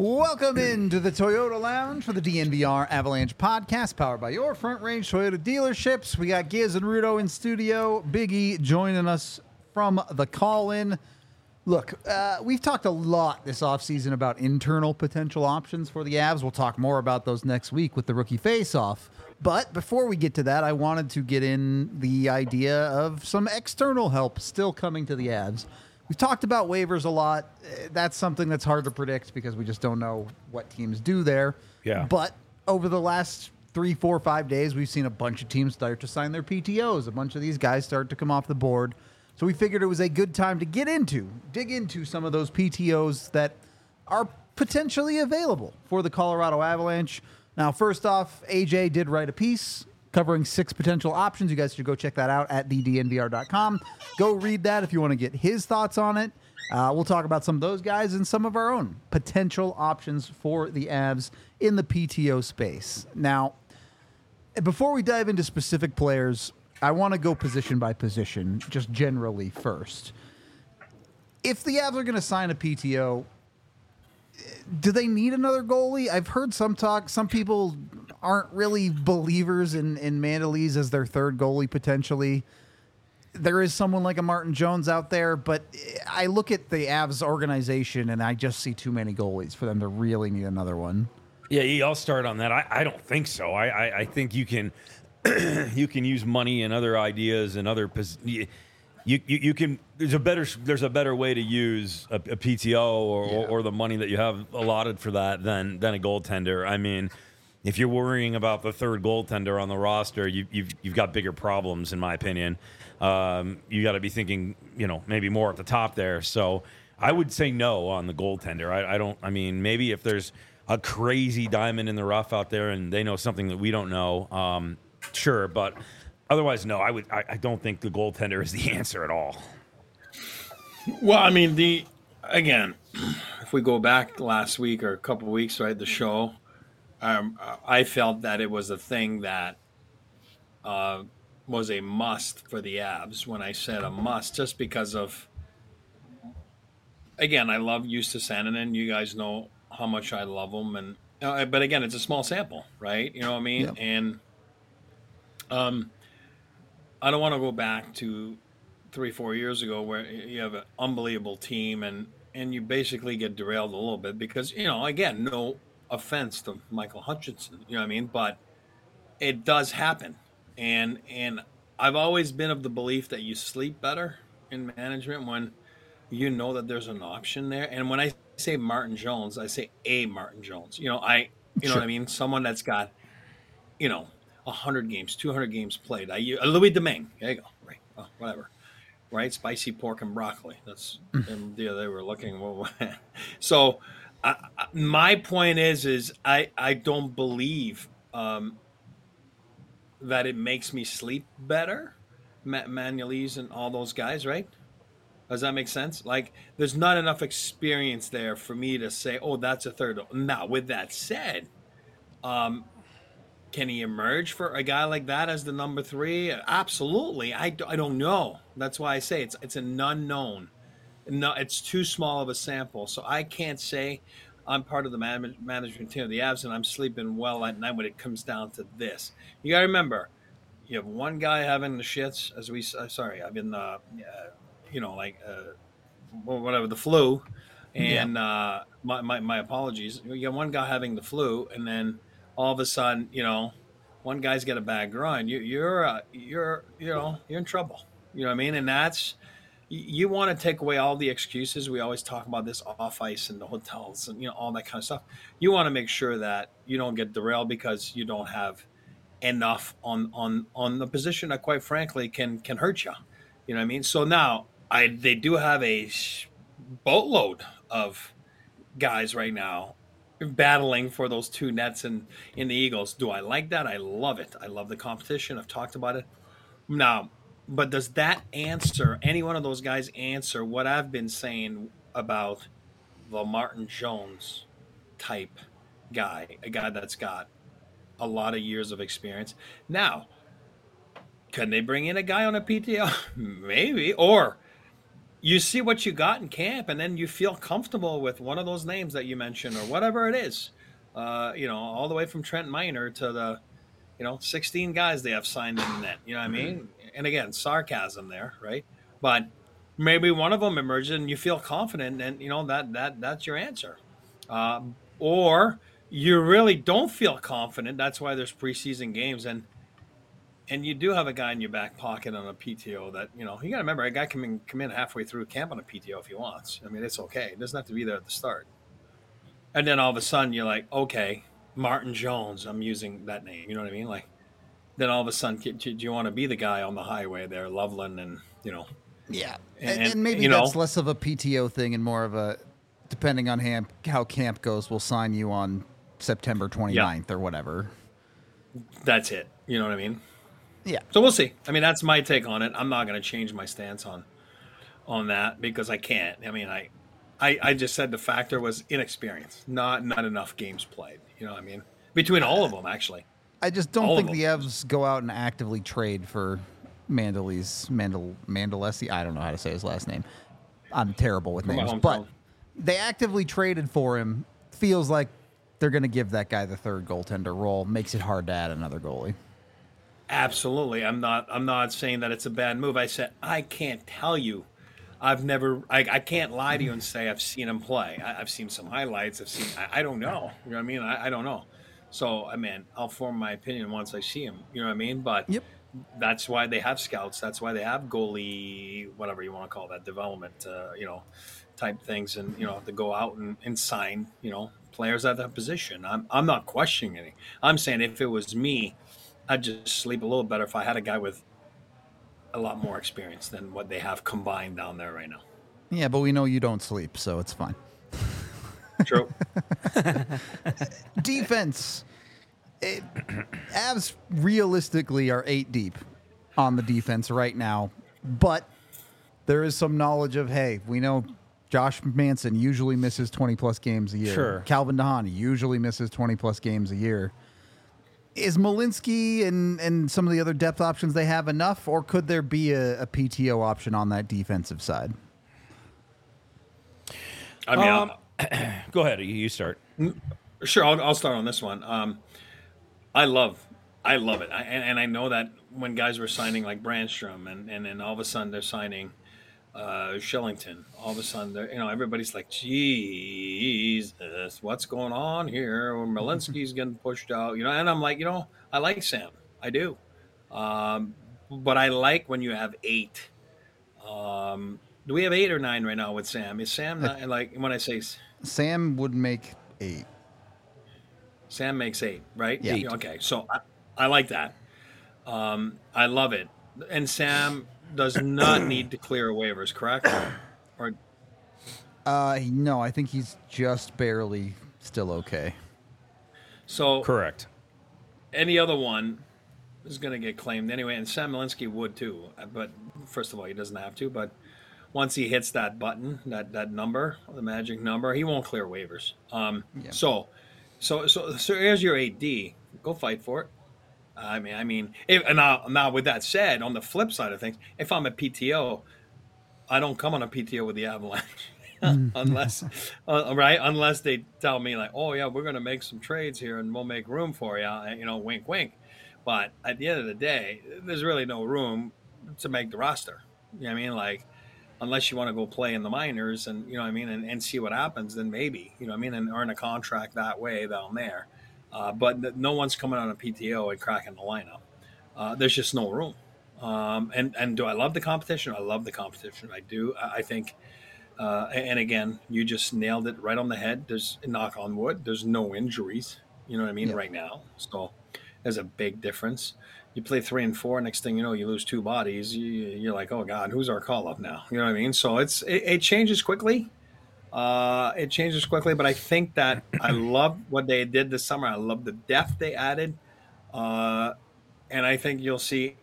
Welcome into the Toyota Lounge for the DNVR Avalanche podcast, powered by your Front Range Toyota dealerships. We got Giz and Rudo in studio. Big E joining us from the call-in. Look, we've talked a lot this offseason about internal potential options for the Avs. We'll talk more about those next week with the rookie face-off. But before we get to that, I wanted to get in the idea of some external help still coming to the Avs. We've talked about waivers a lot. That's something that's hard to predict because we just don't know what teams do there. Yeah. But over the last 3, 4, 5 days, we've seen a bunch of teams start to sign their PTOs. A bunch of these guys start to come off the board. So we figured it was a good time to dig into some of those PTOs that are potentially available for the Colorado Avalanche. Now, first off, AJ did write a piece covering 6 potential options. You guys should go check that out at thednvr.com. Go read that if you want to get his thoughts on it. We'll talk about some of those guys and some of our own potential options for the Avs in the PTO space. Now, before we dive into specific players, I want to go position by position, just generally first. If the Avs are going to sign a PTO, do they need another goalie? I've heard some talk. Some people aren't really believers in Mandolese as their third goalie potentially. There is someone like a Martin Jones out there, but I look at the Avs organization and I just see too many goalies for them to really need another one. Yeah, I'll start on that. I don't think so. I think you can you can use money and other ideas and other you can. There's a better way to use a PTO or the money that you have allotted for that than a goaltender. I mean, if you're worrying about the third goaltender on the roster, you've got bigger problems, in my opinion. You got to be thinking, maybe more at the top there. So I would say no on the goaltender. I don't. I mean, maybe if there's a crazy diamond in the rough out there and they know something that we don't know, sure. But otherwise, no. I don't think the goaltender is the answer at all. Well, I mean, again, if we go back last week or a couple of weeks, right, the show, I felt that it was a thing that was a must for the Avs. When I said a must, just because of, again, I love Justus Annunen. You guys know how much I love him, and but again, it's a small sample, right? You know what I mean? Yeah. And I don't want to go back to 3-4 years ago where you have an unbelievable team and you basically get derailed a little bit because, again, no offense to Michael Hutchinson, you know what I mean? But it does happen. And I've always been of the belief that you sleep better in management when you know that there's an option there. And when I say Martin Jones, I say a Martin Jones. Sure. What I mean? Someone that's got, 100 games, 200 games played. Louis Domingue. There you go. Right. Oh, whatever. Right. Spicy pork and broccoli. That's they were looking. So my point is I don't believe that it makes me sleep better. Manuelese and all those guys, right? Does that make sense? Like, there's not enough experience there for me to say, oh, that's a third. Now, with that said, can he emerge for a guy like that as the number 3? Absolutely. I don't know. That's why I say it's an unknown. No, it's too small of a sample. So I can't say I'm part of the management team of the Avs and I'm sleeping well at night when it comes down to this. You got to remember, you have one guy having the shits, I've been, whatever, the flu. And my apologies. You have one guy having the flu, and then all of a sudden, one guy's got a bad groin. You're in trouble. You know what I mean? And that's, you want to take away all the excuses. We always talk about this off ice and the hotels and all that kind of stuff. You want to make sure that you don't get derailed because you don't have enough on the position that, quite frankly, can hurt you. You know what I mean? So now they do have a boatload of guys right now battling for those 2 nets in the Eagles. Do I like that? I love it. I love the competition. I've talked about it. Now, but does that answer, any one of those guys answer what I've been saying about the Martin Jones type guy, a guy that's got a lot of years of experience? Now, can they bring in a guy on a PTO? Maybe. Or you see what you got in camp, and then you feel comfortable with one of those names that you mentioned or whatever it is. All the way from Trent Miner to the 16 guys they have signed in the net. You know what I mean? And again, sarcasm there, right? But maybe one of them emerges and you feel confident, and that's your answer. Or you really don't feel confident. That's why there's preseason games, and you do have a guy in your back pocket on a PTO that you got to remember a guy can come in halfway through camp on a PTO if he wants. I mean, it's okay. It doesn't have to be there at the start. And then all of a sudden you're like, okay, Martin Jones. I'm using that name. You know what I mean? Like, then all of a sudden, do you want to be the guy on the highway there, Loveland, and Yeah, and maybe that's less of a PTO thing and more of a, depending on how camp goes, we'll sign you on September 29th or whatever. That's it. You know what I mean? Yeah. So we'll see. I mean, that's my take on it. I'm not going to change my stance on that because I can't. I mean, I just said the factor was inexperience, not enough games played. You know what I mean? Between all of them, actually. I just don't think the Evs go out and actively trade for Mandalese. I don't know how to say his last name. I'm terrible with names. But they actively traded for him. Feels like they're going to give that guy the third goaltender role. Makes it hard to add another goalie. Absolutely. I'm not saying that it's a bad move. I said I can't tell you. I can't lie to you and say I've seen him play. I've seen some highlights. I don't know. You know what I mean? I don't know. So, I mean, I'll form my opinion once I see him. You know what I mean? But that's why they have scouts. That's why they have goalie, whatever you want to call that, development, type things. And, to go out and sign, players at that position. I'm not questioning any. I'm saying if it was me, I'd just sleep a little better if I had a guy with a lot more experience than what they have combined down there right now. Yeah, but we know you don't sleep, so it's fine. True. Defense. Avs realistically are 8 deep on the defense right now, but there is some knowledge of, hey, we know Josh Manson usually misses 20-plus games a year. Sure. Calvin DeHaan usually misses 20-plus games a year. Is Malinsky and some of the other depth options they have enough, or could there be a PTO option on that defensive side? I mean, go ahead. You start. Sure, I'll start on this one. I love it, and I know that when guys were signing like Brandstrom, and then all of a sudden they're signing Shillington. All of a sudden, everybody's like, Jesus, what's going on here? Or Malinsky's getting pushed out, And I'm like, I like Sam, I do, but I like when you have 8. Do we have 8 or 9 right now with Sam? Is Sam not, like when I say Sam would make 8? Sam makes 8, right? Yeah. 8. Okay, so I like that. I love it, and Sam does not need to clear waivers, correct? Or no, I think he's just barely still okay. So correct. Any other one is going to get claimed anyway, and Sam Malinsky would too. But first of all, he doesn't have to. But once he hits that button, that number, the magic number, he won't clear waivers. So here's your 8D. Go fight for it. I mean, now with that said, on the flip side of things, if I'm a PTO, I don't come on a PTO with the Avalanche unless they tell me like, oh yeah, we're going to make some trades here and we'll make room for you, wink, wink. But at the end of the day, there's really no room to make the roster. You know what I mean? Like, unless you want to go play in the minors and, and see what happens, then maybe, and earn a contract that way down there. But no one's coming on a PTO and cracking the lineup. There's just no room. And do I love the competition? I love the competition. I do. I think, and again, you just nailed it right on the head. There's, knock on wood, there's no injuries, right now. So there's a big difference. You play 3 and 4, next thing you know, you lose 2 bodies. You're like, oh God, who's our call up now? You know what I mean? So it changes quickly. It changes quickly, but I think that I love what they did this summer. I love the depth they added. And I think you'll see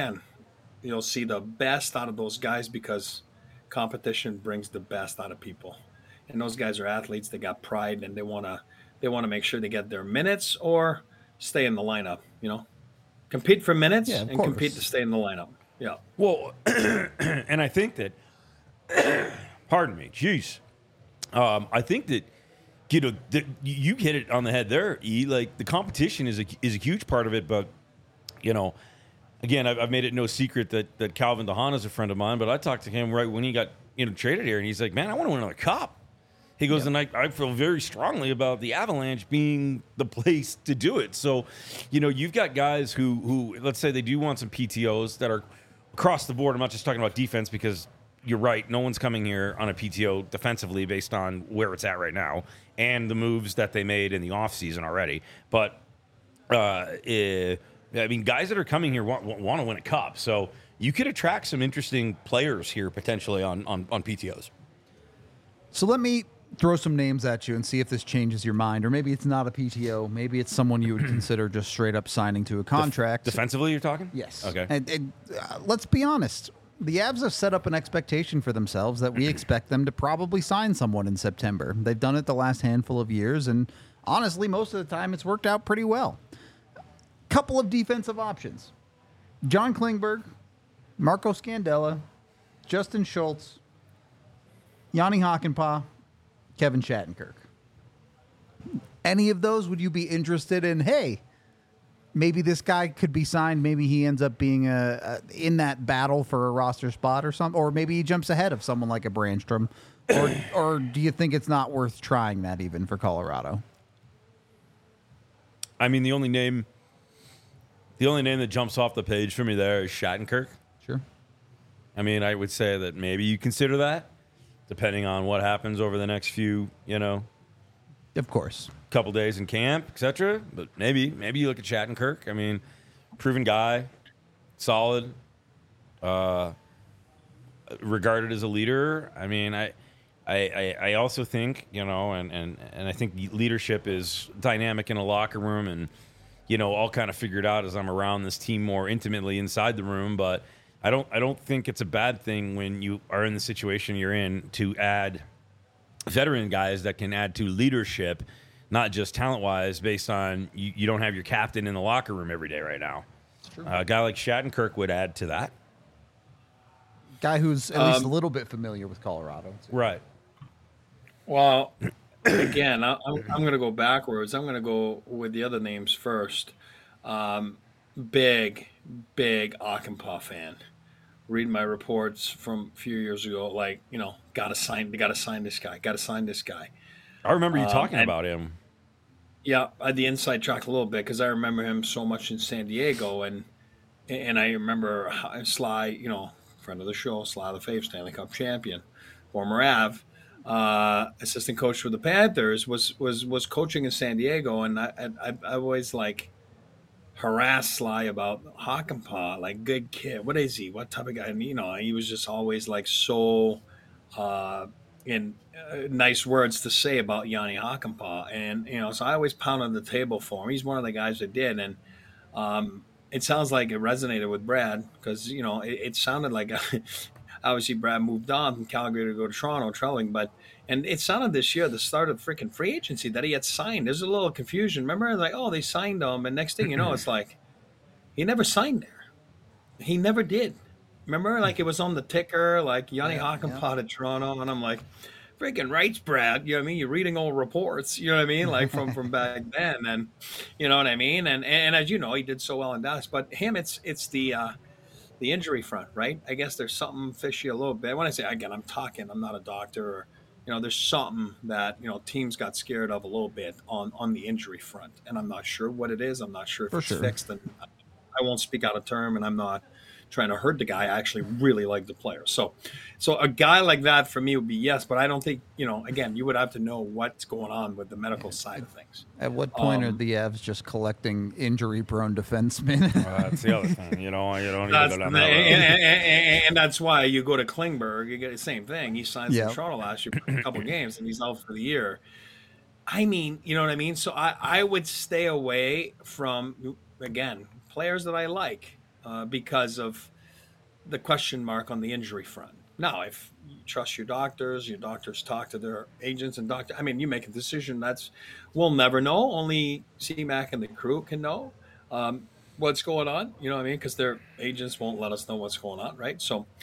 the best out of those guys because competition brings the best out of people. And those guys are athletes. They got pride and they want to make sure they get their minutes or stay in the lineup, compete for minutes and compete to stay in the lineup. Yeah. Well, and I think that Pardon me. Jeez. I think that you hit it on the head there. Like the competition is a huge part of it, but again, I've made it no secret that Calvin DeHaan is a friend of mine. But I talked to him right when he got traded here, and he's like, "Man, I want to win another cup." He goes, and I feel very strongly about the Avalanche being the place to do it. So, you've got guys who let's say they do want some PTOs that are across the board. I'm not just talking about defense because you're right. No one's coming here on a PTO defensively based on where it's at right now and the moves that they made in the offseason already. But, I mean, guys that are coming here want to win a cup. So you could attract some interesting players here potentially on PTOs. So let me throw some names at you and see if this changes your mind. Or maybe it's not a PTO. Maybe it's someone you would consider just straight up signing to a contract. Defensively, you're talking? Yes. Okay. And let's be honest. The Avs have set up an expectation for themselves that we expect them to probably sign someone in September. They've done it the last handful of years, and honestly, most of the time it's worked out pretty well. Couple of defensive options. John Klingberg, Marco Scandella, Justin Schultz, Yanni Hakanpää, Kevin Shattenkirk. Any of those would you be interested in? Hey, maybe this guy could be signed. Maybe he ends up being in that battle for a roster spot or something. Or maybe he jumps ahead of someone like a Brandstrom. Or do you think it's not worth trying that even for Colorado? I mean, the only name that jumps off the page for me there is Shattenkirk. Sure. I mean, I would say that maybe you consider that, depending on what happens over the next few, Of course. couple days in camp, etc. But maybe you look at Shattenkirk. I mean, proven guy, solid, regarded as a leader. I mean, I also think, and I think leadership is dynamic in a locker room and, all kind of figured out as I'm around this team more intimately inside the room. But I don't think it's a bad thing when you are in the situation you're in to add veteran guys that can add to leadership, not just talent-wise, based on you don't have your captain in the locker room every day right now. A guy like Shattenkirk would add to that. Guy who's at least a little bit familiar with Colorado. Right. Well, again, I'm going to go backwards. I'm going to go with the other names first. Big Hakanpää fan. Read my reports from a few years ago, they got to sign this guy. I remember you talking about him. Yeah, I had the inside track a little bit because I remember him so much in San Diego, and I remember Sly, friend of the show, Sly the Fave, Stanley Cup champion, former Av, assistant coach for the Panthers, was coaching in San Diego, and I always harassed Sly about Hakanpää, good kid. What is he? What type of guy? And, he was just always so in nice words to say about Yanni Hakanpää. And, so I always pounded the table for him. He's one of the guys that did. And it sounds like it resonated with Brad because, it sounded like obviously Brad moved on from Calgary to go to Toronto traveling, and it sounded this year, the start of freaking free agency, that he had signed. There's a little confusion. Remember, they signed him, and next thing you know, it's he never signed there. He never did. Remember, it was on the ticker, Yanni Hakanpää to Toronto, and I'm like, freaking rights, Brad. You know what I mean? You're reading old reports. You know what I mean? From back then, and you know what I mean. And as you know, he did so well in Dallas. But him, it's the injury front, right? I guess there's something fishy a little bit. When I say again, I'm not a doctor, or there's something that teams got scared of a little bit on the injury front, and I'm not sure what it is. I'm not sure if it's fixed, and I won't speak out of term, and I'm not trying to hurt the guy. I actually really like the player. So a guy like that for me would be yes, but I don't think, again, you would have to know what's going on with the medical side of things. At what point are the Avs just collecting injury-prone defensemen? That's the other thing. You don't even go down that road. And that's why you go to Klingberg, you get the same thing. He signs in Toronto last year, a couple of games, and he's out for the year. I mean, you know what I mean? So I would stay away from, again, players that I like because of the question mark on the injury front. Now, if you trust your doctors talk to their agents and you make a decision. We'll never know. Only CMAC and the crew can know what's going on. You know what I mean? Because their agents won't let us know what's going on, right? So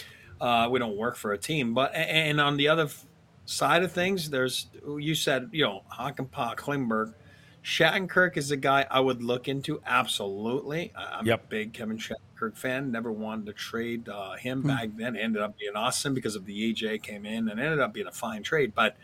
We don't work for a team. But and on the other side of things, there's you said Hakanpää, Klingberg. Shattenkirk is a guy I would look into. Absolutely. I'm a big Kevin Shattenkirk fan. Never wanted to trade him back then. Ended up being awesome because of the EJ came in and ended up being a fine trade. But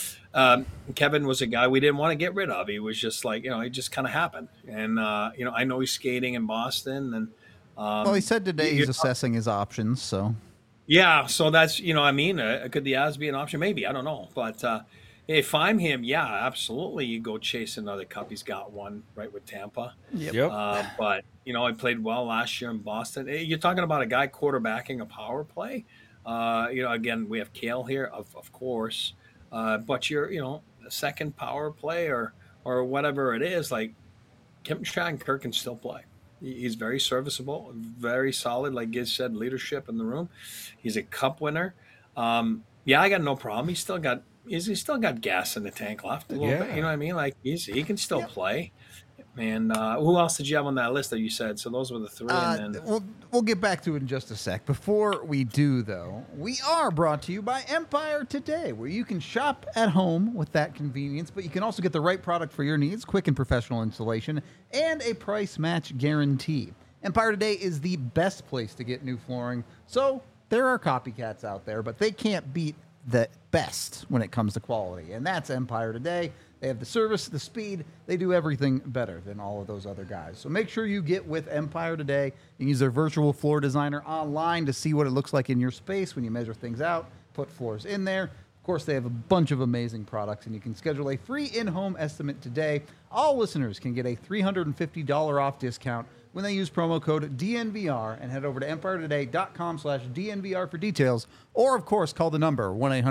Kevin was a guy we didn't want to get rid of. He was just like, it just kind of happened. And, I know he's skating in Boston. And well, he said today he's assessing his options. So, yeah. So that's, could the Avs be an option? Maybe. I don't know. But, if I'm him, yeah, absolutely. You go chase another cup. He's got one right with Tampa. Yep. But, he played well last year in Boston. You're talking about a guy quarterbacking a power play. Again, we have Kale here, of course. But you're, a second power play or whatever it is, like Kevin Shattenkirk can still play. He's very serviceable, very solid, like Giz said, leadership in the room. He's a cup winner. I got no problem. He's still got gas in the tank left a little bit. You know what I mean? Like he can still play. And who else did you have on that list that you said? So those were the three. And then we'll get back to it in just a sec. Before we do, though, we are brought to you by Empire Today, where you can shop at home with that convenience, but you can also get the right product for your needs, quick and professional installation, and a price match guarantee. Empire Today is the best place to get new flooring. So there are copycats out there, but they can't beat the best when it comes to quality, and that's Empire Today. They have the service, the speed. They do everything better than all of those other guys. So make sure you get with Empire Today. You can use their virtual floor designer online to see what it looks like in your space when you measure things out, put floors in there. Of course, they have a bunch of amazing products, and you can schedule a free in-home estimate today. All listeners can get a $350 off discount when they use promo code DNVR and head over to EmpireToday.com/DNVR for details. Or, of course, call the number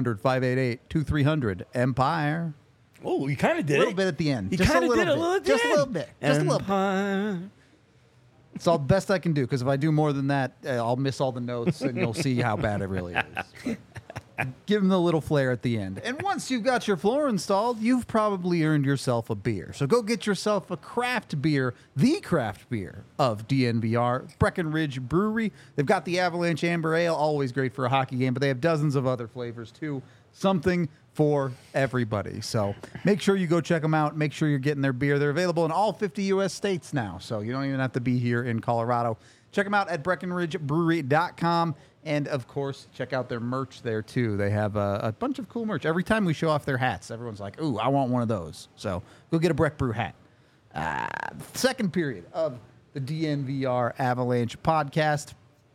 1-800-588-2300-EMPIRE. Oh, you kind of did a little bit at the end. You kind of did a little bit. Just a little bit. Just a little bit. It's all the best I can do, because if I do more than that, I'll miss all the notes, and you'll see how bad it really is. But give them the little flair at the end. And once you've got your floor installed, you've probably earned yourself a beer. So go get yourself a craft beer, the craft beer of DNVR, Breckenridge Brewery. They've got the Avalanche Amber Ale, always great for a hockey game, but they have dozens of other flavors too. Something for everybody. So make sure you go check them out. Make sure you're getting their beer. They're available in all 50 U.S. states now, so you don't even have to be here in Colorado. Check them out at BreckenridgeBrewery.com. And, of course, check out their merch there, too. They have a bunch of cool merch. Every time we show off their hats, everyone's like, ooh, I want one of those. So go get a Breck Brew hat. Second period of the DNVR Avalanche podcast.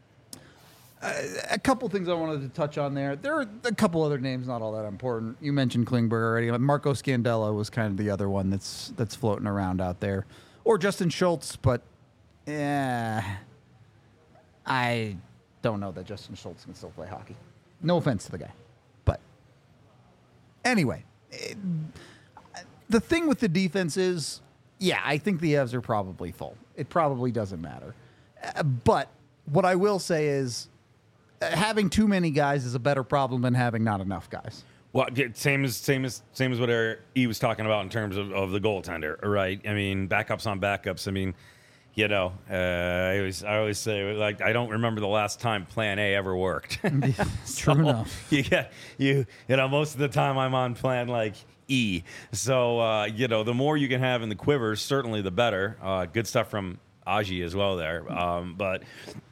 A couple things I wanted to touch on there. There are a couple other names, not all that important. You mentioned Klingberg already. Marco Scandella was kind of the other one that's floating around out there. Or Justin Schultz, but I don't know that Justin Schultz can still play hockey. No offense to the guy. But anyway, the thing with the defense is, I think the Avs are probably full. It probably doesn't matter. But what I will say is, having too many guys is a better problem than having not enough guys. Well, same as what he was talking about in terms of the goaltender, right? I mean, backups on backups. I mean, I always say, like, I don't remember the last time Plan A ever worked. True enough. Most of the time I'm on Plan like E. So the more you can have in the quiver, certainly the better. Good stuff from Aji as well there, but.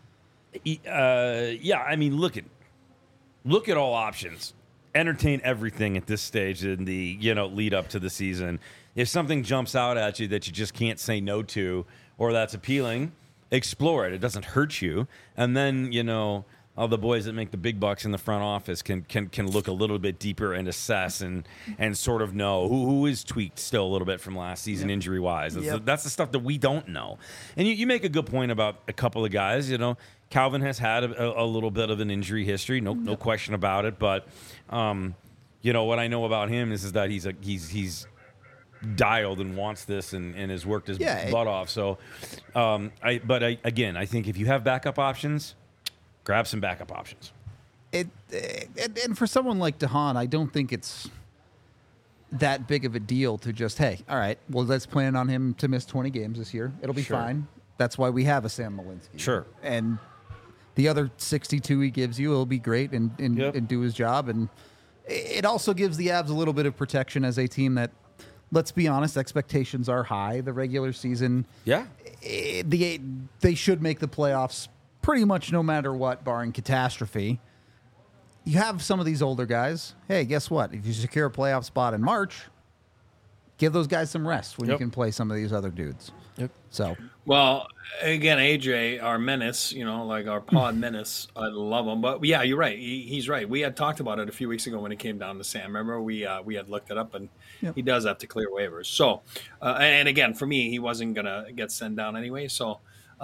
I mean, look at all options. Entertain everything at this stage in the lead up to the season. If something jumps out at you that you just can't say no to, or that's appealing, explore it. It doesn't hurt you. And then all the boys that make the big bucks in the front office can look a little bit deeper and assess and sort of know who is tweaked still a little bit from last season injury wise. That's the stuff that we don't know. And you make a good point about a couple of guys. Calvin has had a little bit of an injury history, no question about it. But what I know about him is that he's dialed and wants this and has worked his butt off. So, I think if you have backup options, grab some backup options. And for someone like DeHaan, I don't think it's that big of a deal to just, hey, all right, well, let's plan on him to miss 20 games this year. It'll be fine. That's why we have a Sam Malinsky. Sure. And The other 62 he gives you will be great and do his job. And it also gives the Avs a little bit of protection as a team that, let's be honest, expectations are high. The regular season, they should make the playoffs pretty much no matter what, barring catastrophe. You have some of these older guys. Hey, guess what? If you secure a playoff spot in March, give those guys some rest when you can play some of these other dudes. Yep. So, well, again, AJ, our menace, like our pod menace, I love him. But yeah, you're right. He's right. We had talked about it a few weeks ago when it came down to Sam. Remember, we had looked it up, and he does have to clear waivers. So, and again, for me, he wasn't gonna get sent down anyway. So,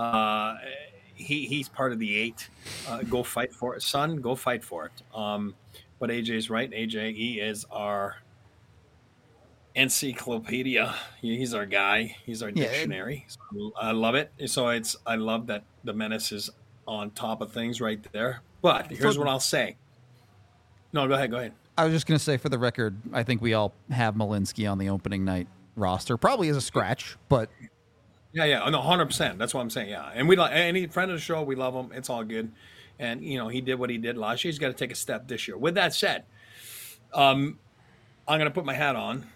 he's part of the 8. Go fight for it, son. Go fight for it. But AJ's right. AJ, he is our encyclopedia. He's our guy. He's our dictionary. So I love it. So I love that the menace is on top of things right there. But here's what I'll say. No, go ahead. I was just going to say, for the record, I think we all have Malinsky on the opening night roster, probably as a scratch, but yeah, no, 100%. That's what I'm saying. Yeah, and we like any friend of the show. We love him. It's all good. And he did what he did last year. He's got to take a step this year. With that said, I'm going to put my hat on.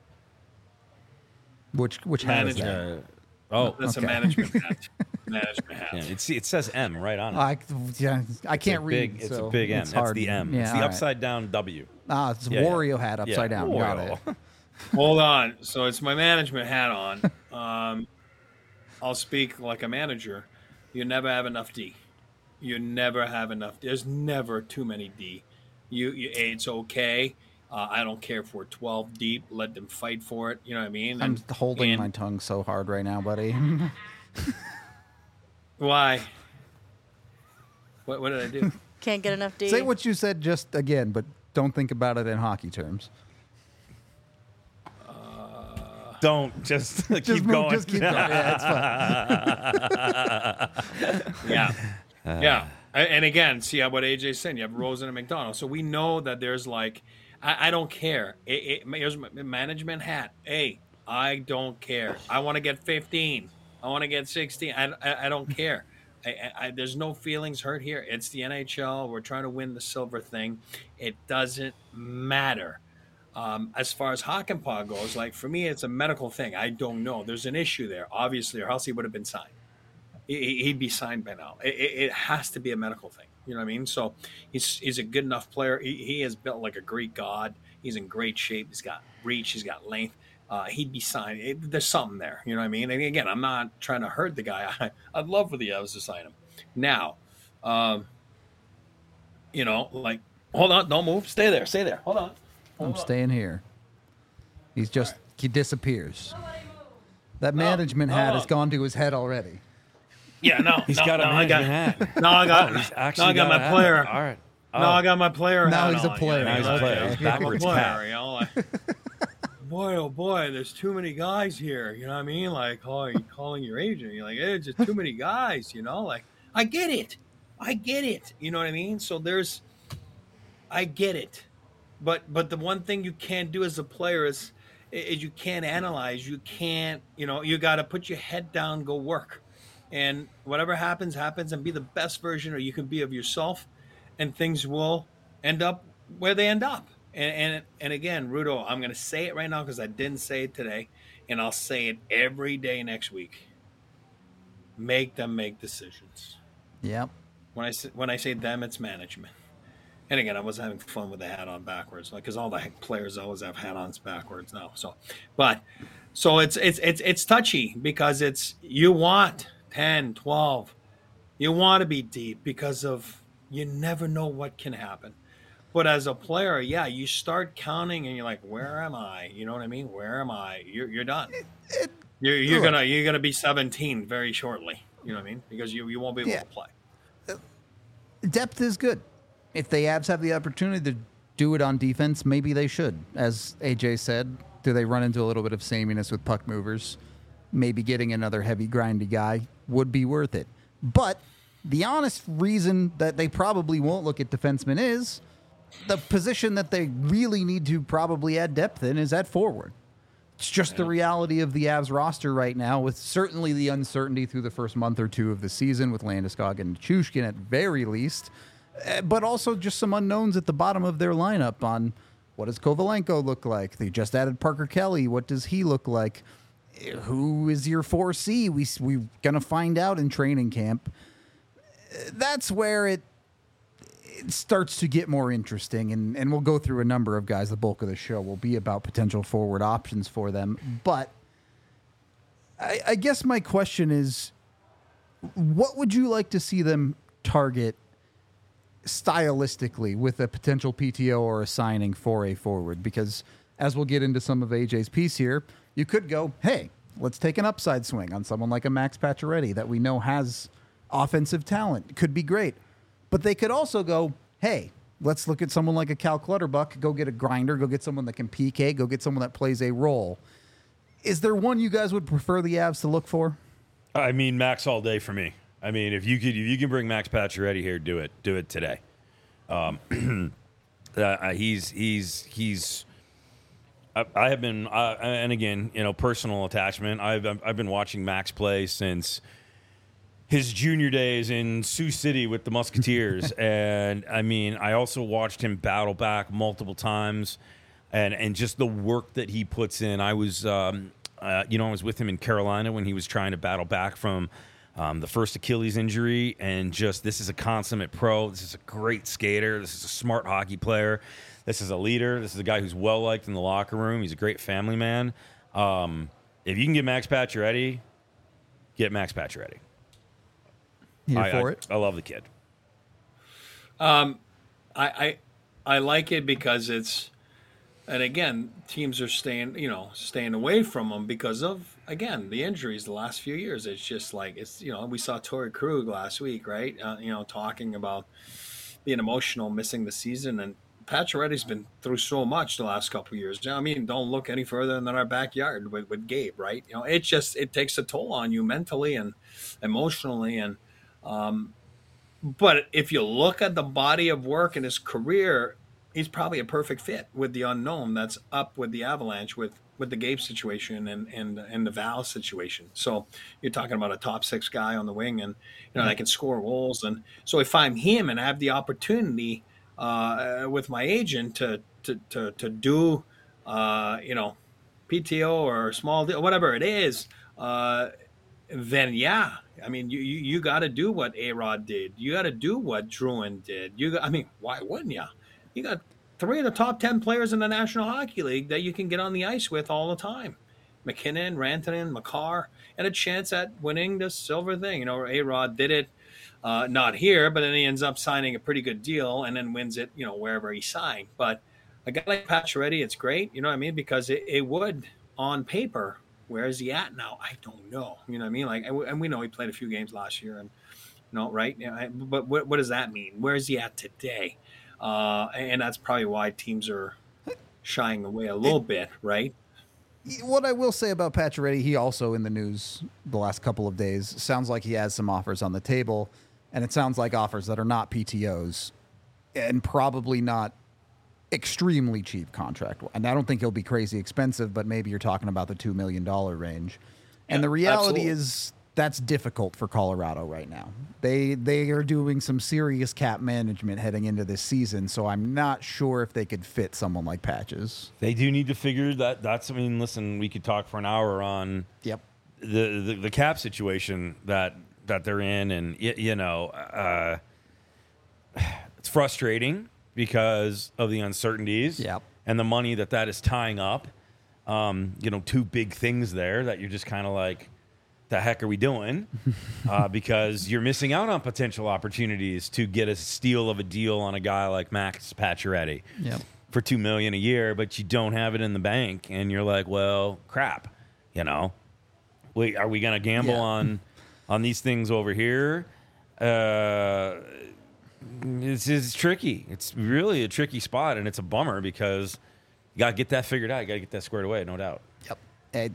Which hat is that? That's a management hat. Management hat. Yeah, it says M right on it. I can't read. It's a big M. That's the M. Yeah, it's the upside down W. It's Wario hat upside down. Got it. Hold on. So it's my management hat on. I'll speak like a manager. You never have enough D. You never have enough. There's never too many D. It's okay. I don't care if we're 12 deep. Let them fight for it. You know what I mean? I'm holding my tongue so hard right now, buddy. Why? What did I do? Can't get enough D. Say what you said just again, but don't think about it in hockey terms. Don't just keep going. Just keep going. Yeah, it's fine. Yeah. And again, see what AJ's saying. You have Rosen and McDonald. So we know that there's I don't care. Here's my management hat. Hey, I don't care. I want to get 15. I want to get 16. I don't care. There's no feelings hurt here. It's the NHL. We're trying to win the silver thing. It doesn't matter. As far as Hakanpää goes, for me, it's a medical thing. I don't know. There's an issue there, obviously, or else he would have been signed. He'd be signed by now. It has to be a medical thing. You know what I mean? So he's a good enough player. He is built like a Greek god. He's in great shape. He's got reach. He's got length. He'd be signed. There's something there. You know what I mean? And again, I'm not trying to hurt the guy. I'd love for the Avs to sign him. Now, hold on. Don't move. Stay there. Hold on. I'm staying here. He disappears. That management hat has gone to his head already. Yeah, no. He's got a management hat. No, I got my player. All right. No, I got my player Now hat he's a player. Now he's a player. Backwards hat. Boy, oh boy, there's too many guys here. You know what I mean? Calling your agent. You're like, hey, it's just too many guys, I get it. You know what I mean? So I get it. But the one thing you can't do as a player is you can't analyze. You can't, you got to put your head down, go work. And whatever happens, and be the best version or you can be of yourself, and things will end up where they end up. And again, Rudo, I'm going to say it right now because I didn't say it today, and I'll say it every day next week. Make them make decisions. Yep. When I say them, it's management. And again, I was having fun with the hat on backwards, because all the players always have hat-ons backwards now. So it's touchy because you want 10, 12. You want to be deep because you never know what can happen. But as a player, you start counting and you're like, where am I? You know what I mean? Where am I? You're done. You're gonna be 17 very shortly. You know what I mean? Because you won't be able to play. Depth is good. If the Avs have the opportunity to do it on defense, maybe they should. As AJ said, do they run into a little bit of sameness with puck movers? Maybe getting another heavy, grindy guy would be worth it. But the honest reason that they probably won't look at defensemen is the position that they really need to probably add depth in is at forward. It's just the reality of the Avs roster right now, with certainly the uncertainty through the first month or two of the season with Landeskog and Chushkin at very least, but also just some unknowns at the bottom of their lineup on what does Kovalenko look like? They just added Parker Kelly. What does he look like? Who is your 4C? We're going to find out in training camp. That's where it starts to get more interesting, and we'll go through a number of guys. The bulk of the show will be about potential forward options for them. But I guess my question is, what would you like to see them target stylistically with a potential PTO or a signing for a forward? Because as we'll get into some of AJ's piece here, you could go, hey, let's take an upside swing on someone like a Max Pacioretty that we know has offensive talent. Could be great. But they could also go, hey, let's look at someone like a Cal Clutterbuck, go get a grinder, go get someone that can PK, go get someone that plays a role. Is there one you guys would prefer the Avs to look for? I mean, Max all day for me. I mean, if you can bring Max Pacioretty here, do it. Do it today. He's. I have been, and again, personal attachment. I've been watching Max play since his junior days in Sioux City with the Musketeers, and I mean, I also watched him battle back multiple times, and just the work that he puts in. I was, I was with him in Carolina when he was trying to battle back from the first Achilles injury, and this is a consummate pro. This is a great skater. This is a smart hockey player. This is a leader. This is a guy who's well-liked in the locker room. He's a great family man. If you can get Max Pacioretty, get Max Pacioretty. Here for it? I love the kid. I like it because it's, and again, teams are staying away from him because of, again, the injuries the last few years. It's just like, we saw Torrey Krug last week, right? Talking about being emotional, missing the season, and Pacioretty's been through so much the last couple of years. I mean, don't look any further than our backyard with Gabe, right? It takes a toll on you mentally and emotionally, and but if you look at the body of work in his career, he's probably a perfect fit with the unknown that's up with the Avalanche with the Gabe situation and the Val situation. So you're talking about a top 6 guy on the wing, and that can score goals. And so if I'm him and I have the opportunity with my agent to do PTO or small deal, whatever it is, then yeah, I mean you got to do what A-Rod did. You got to do what Drouin did. Why wouldn't you? You got 3 of the top 10 players in the National Hockey League that you can get on the ice with all the time. McKinnon, Rantanen, Makar, and a chance at winning the silver thing. A-Rod did it. Not here, but then he ends up signing a pretty good deal and then wins it, wherever he signed. But a guy like Pacioretty, it's great, because it would, on paper, where is he at now? I don't know. And we know he played a few games last year, and right? But what does that mean? Where is he at today? And that's probably why teams are shying away a little bit, right? What I will say about Pacioretty, he also in the news the last couple of days. Sounds like he has some offers on the table, and it sounds like offers that are not PTOs and probably not extremely cheap contract. And I don't think he'll be crazy expensive, but maybe you're talking about the $2 million range. And the reality is that's difficult for Colorado right now. They are doing some serious cap management heading into this season, so I'm not sure if they could fit someone like Patches. They do need to figure that. Listen, we could talk for an hour on the cap situation that they're in, and it's frustrating because of the uncertainties and the money that is tying up. 2 big things there that you're just kind of like, the heck are we doing? Because you're missing out on potential opportunities to get a steal of a deal on a guy like Max Pacioretty for $2 million a year, but you don't have it in the bank, and you're like, well, crap. Wait, are we going to gamble on these things over here? It's tricky. It's really a tricky spot, and it's a bummer because you got to get that figured out. You got to get that squared away, no doubt. Yep.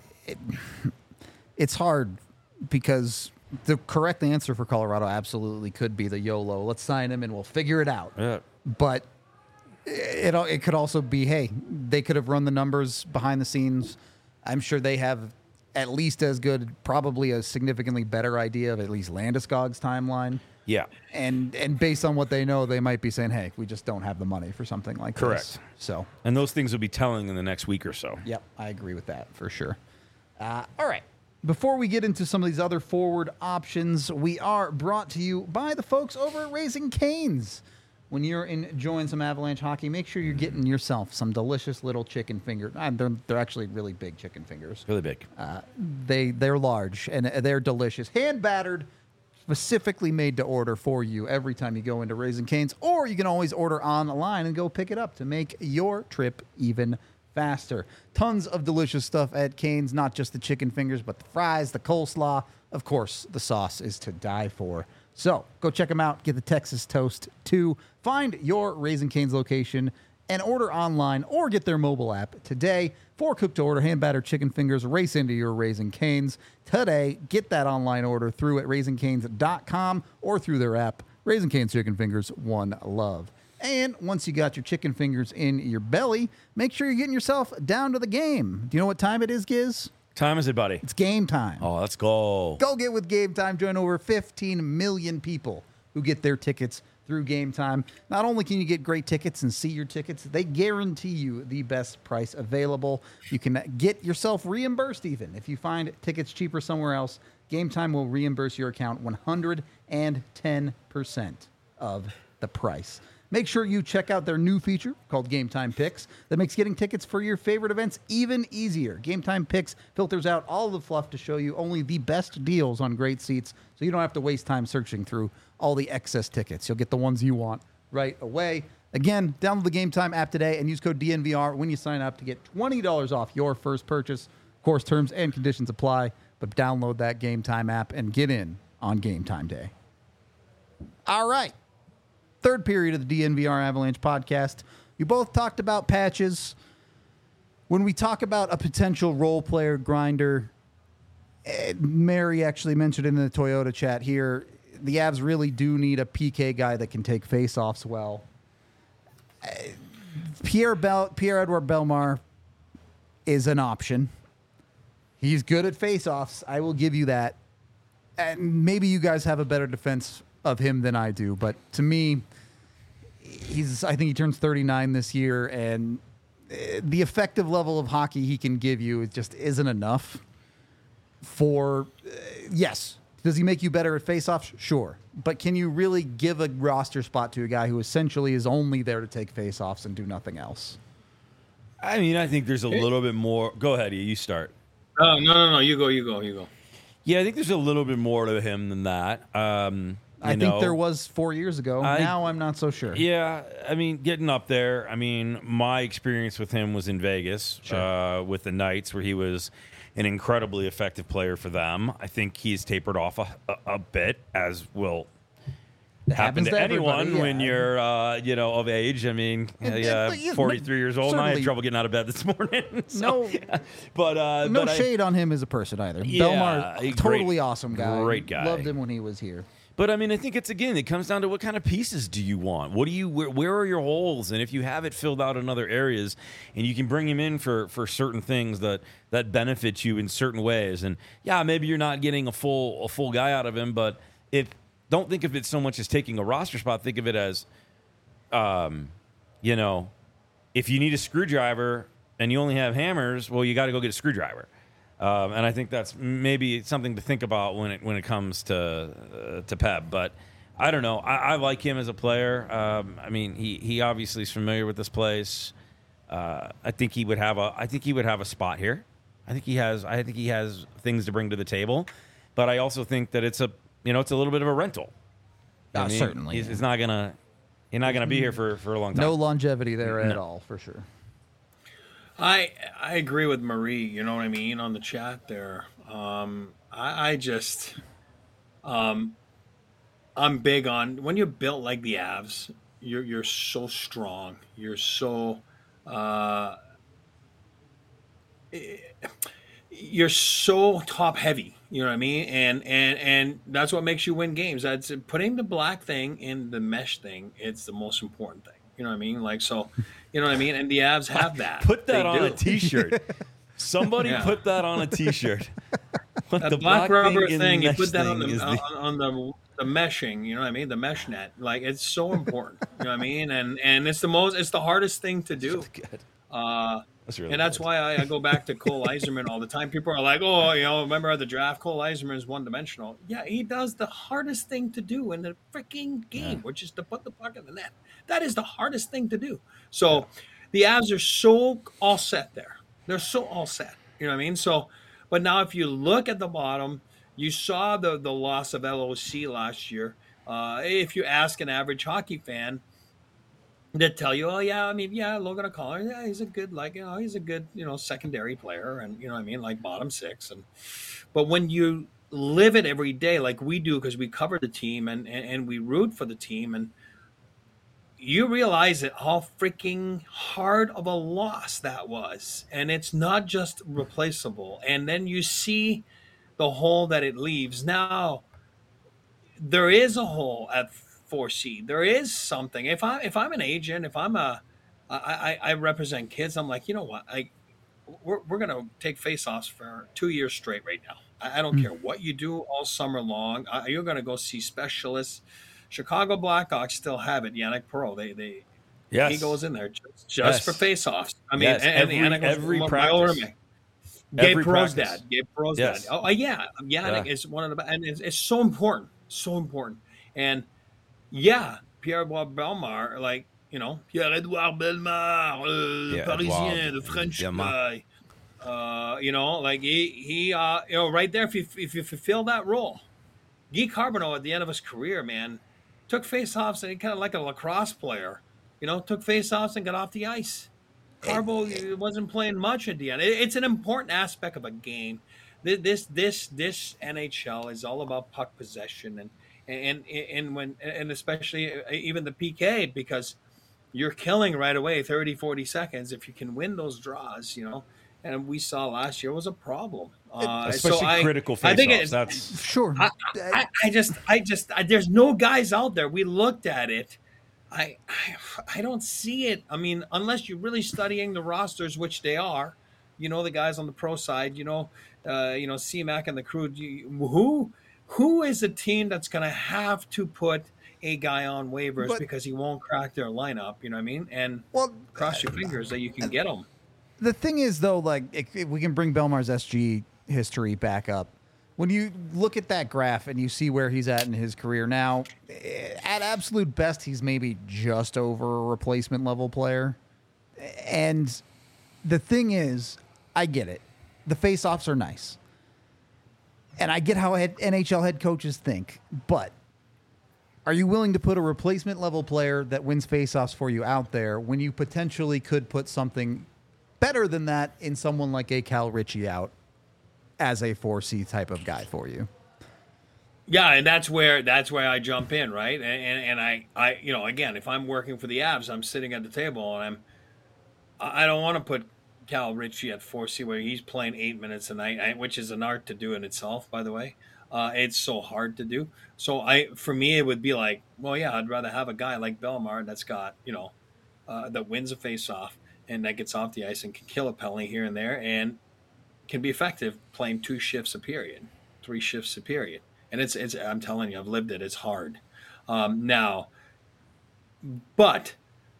It's hard because the correct answer for Colorado absolutely could be the YOLO. Let's sign him and we'll figure it out. Yeah. But it could also be, hey, they could have run the numbers behind the scenes, I'm sure they have at least as good, probably a significantly better idea of at least Landeskog's timeline. Yeah. And based on what they know, they might be saying, hey, we just don't have the money for something like Correct. this. So, And those things will be telling in the next week or so. yep, I agree with that for sure. All right. Before we get into some of these other forward options, we are brought to you by the folks over at Raising Cane's. When you're enjoying some Avalanche hockey, make sure you're getting yourself some delicious little chicken fingers. They're actually really big chicken fingers. Really big. They're large and they're delicious. Hand battered, specifically made to order for you every time you go into Raising Cane's. Or you can always order online and go pick it up to make your trip even faster. Tons of delicious stuff at Cane's, not just the chicken fingers, but the fries, the coleslaw. Of course, the sauce is to die for. So go check them out. Get the Texas Toast too. Find your Raising Cane's location and order online or get their mobile app today for cook-to-order hand-battered chicken fingers. Race into your Raising Cane's today. Get that online order through at raisingcanes.com or through their app. Raising Cane's Chicken Fingers, one love. And once you got your chicken fingers in your belly, make sure you're getting yourself down to the game. Do you know what time it is, Giz? Time is it, buddy? It's game time. Oh, let's go. Go get with Game Time. Join over 15 million people who get their tickets through Game Time. Not only can you get great tickets and see your tickets, they guarantee you the best price available. You can get yourself reimbursed even. If you find tickets cheaper somewhere else, Game Time will reimburse your account 110% of the price. Make sure you check out their new feature called Game Time Picks that makes getting tickets for your favorite events even easier. Game Time Picks filters out all the fluff to show you only the best deals on great seats, so you don't have to waste time searching through all the excess tickets. You'll get the ones you want right away. Again, download the Game Time app today and use code DNVR when you sign up to get $20 off your first purchase. Of course, terms and conditions apply, but download that Game Time app and get in on Game Time Day. All right. Third period of the DNVR Avalanche podcast. You both talked about patches. When we talk about a potential role player grinder, Mary actually mentioned in the Toyota chat here, the Avs really do need a PK guy that can take faceoffs well. Pierre-Edouard Bellemare is an option. He's good at faceoffs. I will give you that. And maybe you guys have a better defense of him than I do, but to me, I think he turns 39 this year, and the effective level of hockey he can give you just isn't enough for, yes, does he make you better at faceoffs? Sure. But can you really give a roster spot to a guy who essentially is only there to take faceoffs and do nothing else? I mean, I think there's a little bit more. Go ahead, you start. Oh, no. You go. Yeah, I think there's a little bit more to him than that. I think there was 4 years ago. Now I'm not so sure. Yeah, I mean, getting up there. I mean, my experience with him was in Vegas with the Knights, where he was an incredibly effective player for them. I think he's tapered off a bit, as will happen to anyone when you're, of age. I mean, 43 years old, and I had trouble getting out of bed this morning. So, no shade on him as a person either. Yeah, Bellemare, totally awesome guy. Great guy. Loved him when he was here. But I mean, I think it comes down to what kind of pieces do you want? Where are your holes? And if you have it filled out in other areas, and you can bring him in for certain things that benefit you in certain ways, and yeah, maybe you're not getting a full guy out of him, but don't think of it so much as taking a roster spot. Think of it as, if you need a screwdriver and you only have hammers, well, you got to go get a screwdriver. And I think that's maybe something to think about when it comes to Pep. But I don't know. I like him as a player. I mean, he obviously is familiar with this place. I think he would have a spot here. I think he has things to bring to the table. But I also think that it's a little bit of a rental. Certainly, he's not gonna be here for a long time. No longevity there at all, for sure. I agree with Marie, you know what I mean, on the chat there. I'm big on when you're built like the Avs, you're so strong. You're so you're so top heavy, you know what I mean? And that's what makes you win games. That's putting the black thing in the mesh thing, it's the most important thing. You know what I mean? Like, so, you know what I mean? And the Avs have that. Put that on a T-shirt. Somebody Yeah. put that on a T-shirt. What That the black rubber in thing, you mesh put that thing is the on the meshing, you know what I mean? The mesh net. Like, it's so important. You know what I mean? And it's the hardest thing to do. good. Uh, That's really and that's good. why I go back to Cole Eiserman all the time. People are like, oh, remember at the draft, Cole Eiserman is one dimensional. Yeah, he does the hardest thing to do in the freaking game, which is to put the puck in the net. That is the hardest thing to do. So the Avs are so all set there. They're so all set. You know what I mean? So, but now if you look at the bottom, you saw the loss of LOC last year. If you ask an average hockey fan, that tell you, oh yeah, I mean, yeah, Logan O'Connor, yeah, he's a good, he's a good, secondary player, and you know what I mean, like bottom six. And but when you live it every day, like we do, because we cover the team and we root for the team, and you realize that how freaking hard of a loss that was, and it's not just replaceable. And then you see the hole that it leaves. Now there is a hole at 4C. There is something. If I'm an agent, if I represent kids, I'm like, you know what? We're gonna take face-offs for 2 years straight right now. I don't care what you do all summer long. You're gonna go see specialists. Chicago Blackhawks still have it. Yannick Perreault, he goes in there just for face-offs. I mean, Yes. Every practice. Gabe Every Perreault's practice. dad. Gabe Perreault's Yes. dad. Oh, yeah. Yannick is one of the, and it's so important. So important. And yeah, Pierre-Edouard Bellemare, like, Pierre-Edouard Bellemare, Parisien, the French guy. Like he right there, if you fulfill that role. Guy Carbonneau at the end of his career, man, took face-offs and he kind of like a lacrosse player, took face-offs and got off the ice. Carbo wasn't playing much at the end. It's an important aspect of a game. This NHL is all about puck possession and especially even the PK, because you're killing right away 30, 40 seconds if you can win those draws, and we saw last year was a problem. Especially critical face-offs. That's Sure. I just there's no guys out there. We looked at it. I don't see it. I mean, unless you're really studying the rosters, which they are, the guys on the pro side, CMAC and the crew. Who is a team that's going to have to put a guy on waivers because he won't crack their lineup? You know what I mean? And cross your fingers that you can get him. The thing is, though, like if we can bring Bellemar's SG history back up. When you look at that graph and you see where he's at in his career now, at absolute best, he's maybe just over a replacement level player. And the thing is, I get it. The face-offs are nice. And I get how NHL head coaches think. But are you willing to put a replacement level player that wins face-offs for you out there when you potentially could put something better than that in someone like a Cal Ritchie out as a 4C type of guy for you? Yeah, and that's where I jump in, right? And I again, if I'm working for the Avs, I'm sitting at the table and I don't want to put Cal Ritchie at 4C where he's playing 8 minutes a night, which is an art to do in itself, by the way. It's so hard to do. So for me, it would be like, well, yeah, I'd rather have a guy like Bellemare that's got, that wins a face-off and that gets off the ice and can kill a penalty here and there and can be effective playing 2 shifts a period, 3 shifts a period. And it's I'm telling you, I've lived it. It's hard. Now, but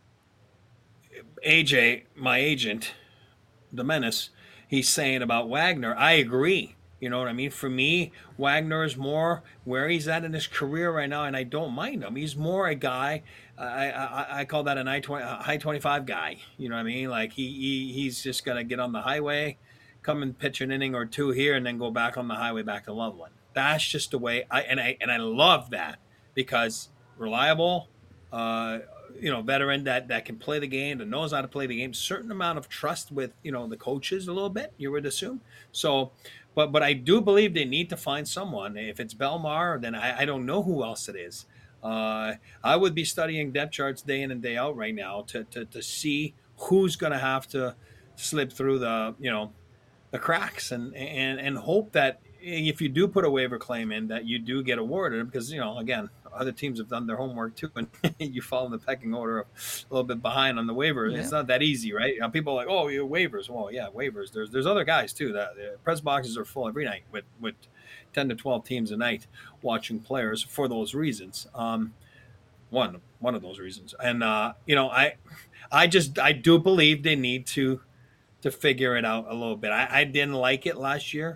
AJ, my agent, the Menace, he's saying about Wagner, I agree. You know what I mean? For me, Wagner is more where he's at in his career right now, and I don't mind him. He's more a guy, I call that high 25 guy. You know what I mean? Like he's just going to get on the highway, come and pitch an inning or 2 here, and then go back on the highway back to Loveland. That's just the way I love that, because reliable, veteran that can play the game, that knows how to play the game, certain amount of trust with, the coaches a little bit, you would assume. So, but I do believe they need to find someone. If it's Bellemare, then I don't know who else it is. I would be studying depth charts day in and day out right now to see who's going to have to slip through the cracks and hope that if you do put a waiver claim in, that you do get awarded, because again, other teams have done their homework too, and you fall in the pecking order of a little bit behind on the waiver. Yeah. It's not that easy, right? People are like, oh, you waivers. Well, yeah, waivers. There's other guys too. That press boxes are full every night with 10 to 12 teams a night watching players for those reasons. One of those reasons, and I do believe they need to figure it out a little bit. I didn't like it last year.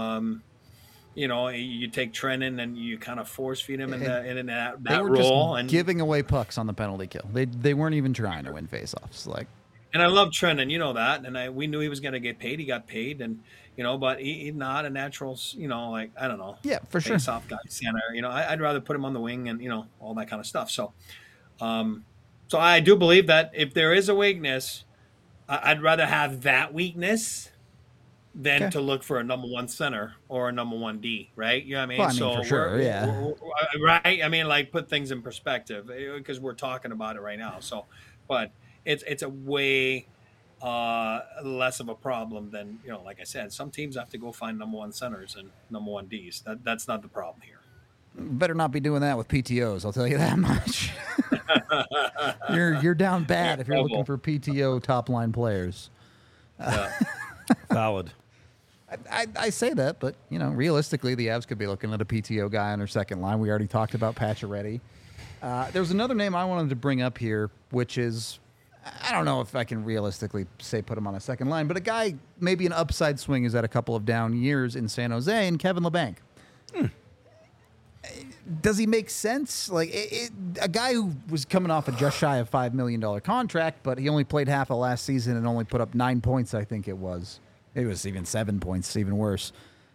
You take Trennan and you kind of force feed him in that They were role, just and giving away pucks on the penalty kill. They weren't even trying to win faceoffs. Like, and I love Trennan, you know that, and we knew he was going to get paid. He got paid, and but he's not a natural, like I don't know, yeah, for sure, face-off guy center. I'd rather put him on the wing and all that kind of stuff. So, so I do believe that if there is a weakness, I'd rather have that weakness than to look for a number one center or a number one D, right? You know what I mean? Well, I mean, for sure, yeah. Right? I mean, like, put things in perspective because we're talking about it right now. So, but it's a way less of a problem than, like I said, some teams have to go find number one centers and number one Ds. That's not the problem here. Better not be doing that with PTOs, I'll tell you that much. You're down bad if you're looking for PTO top line players. Yeah. Valid. I say that, but realistically, the Avs could be looking at a PTO guy on their second line. We already talked about Pacioretty. There's another name I wanted to bring up here, which is, I don't know if I can realistically say put him on a second line, but a guy, maybe an upside swing, is at a couple of down years in San Jose, and Kevin Labanc. Does he make sense? Like a guy who was coming off a just shy of $5 million contract, but he only played half of last season and only put up 9 points, I think it was. It was even 7 points, even worse.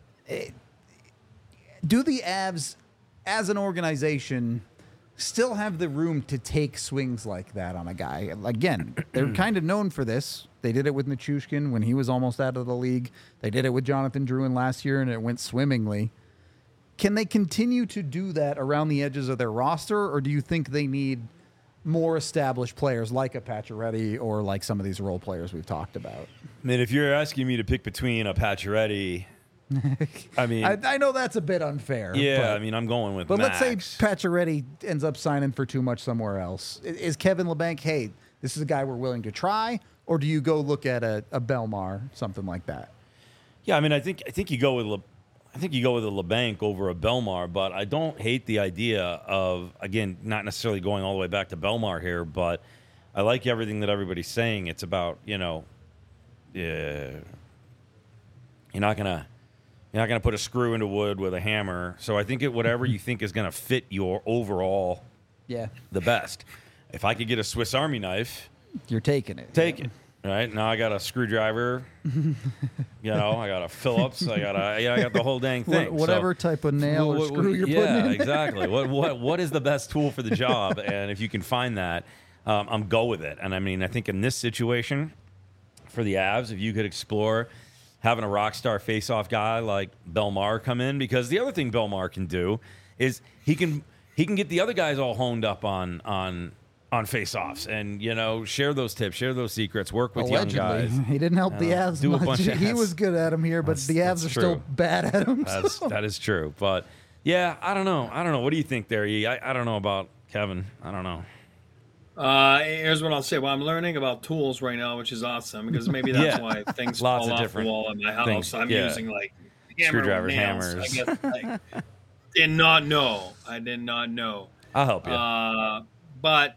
Do the Avs, as an organization, still have the room to take swings like that on a guy? Again, they're kind of known for this. They did it with Nichushkin when he was almost out of the league. They did it with Jonathan Drouin last year, and it went swimmingly. Can they continue to do that around the edges of their roster, or do you think they need more established players like a Pacioretty or like some of these role players we've talked about? I mean, if you're asking me to pick between a Pacioretty, I mean, I know that's a bit unfair. Yeah, I mean, I'm going with. But Max. let's say Pacioretty ends up signing for too much somewhere else. Is Kevin Labanc, hey, this is a guy we're willing to try, or do you go look at a Belmar, something like that? Yeah, I mean, I think you go with a Labanc over a Belmar, but I don't hate the idea of, again, not necessarily going all the way back to Belmar here, but I like everything that everybody's saying. It's about, you're not gonna put a screw into wood with a hammer. So I think whatever you think is gonna fit your overall, the best. If I could get a Swiss Army knife, you're taking it. Take it. Right now, I got a screwdriver. I got a Phillips. I got the whole dang thing. Whatever type of nail or screw you're putting in. Yeah, exactly. What is the best tool for the job? And if you can find that, I'm go with it. And I mean, I think in this situation, for the Avs, if you could explore having a rock star face-off guy like Belmar come in, because the other thing Belmar can do is he can get the other guys all honed up on face-offs and, share those tips, share those secrets, work with young guys. He didn't help the Avs do a much. bunch of He was good at him here, but the Avs are still bad at him. That is true. But, yeah, I don't know. What do you think there, E? I don't know about Kevin. I don't know. Here's what I'll say. Well, I'm learning about tools right now, which is awesome, because maybe that's why things fall off the wall in my house. Things, I'm using, like, screwdrivers, nails, hammers. I guess, did not know. I did not know. I'll help you. But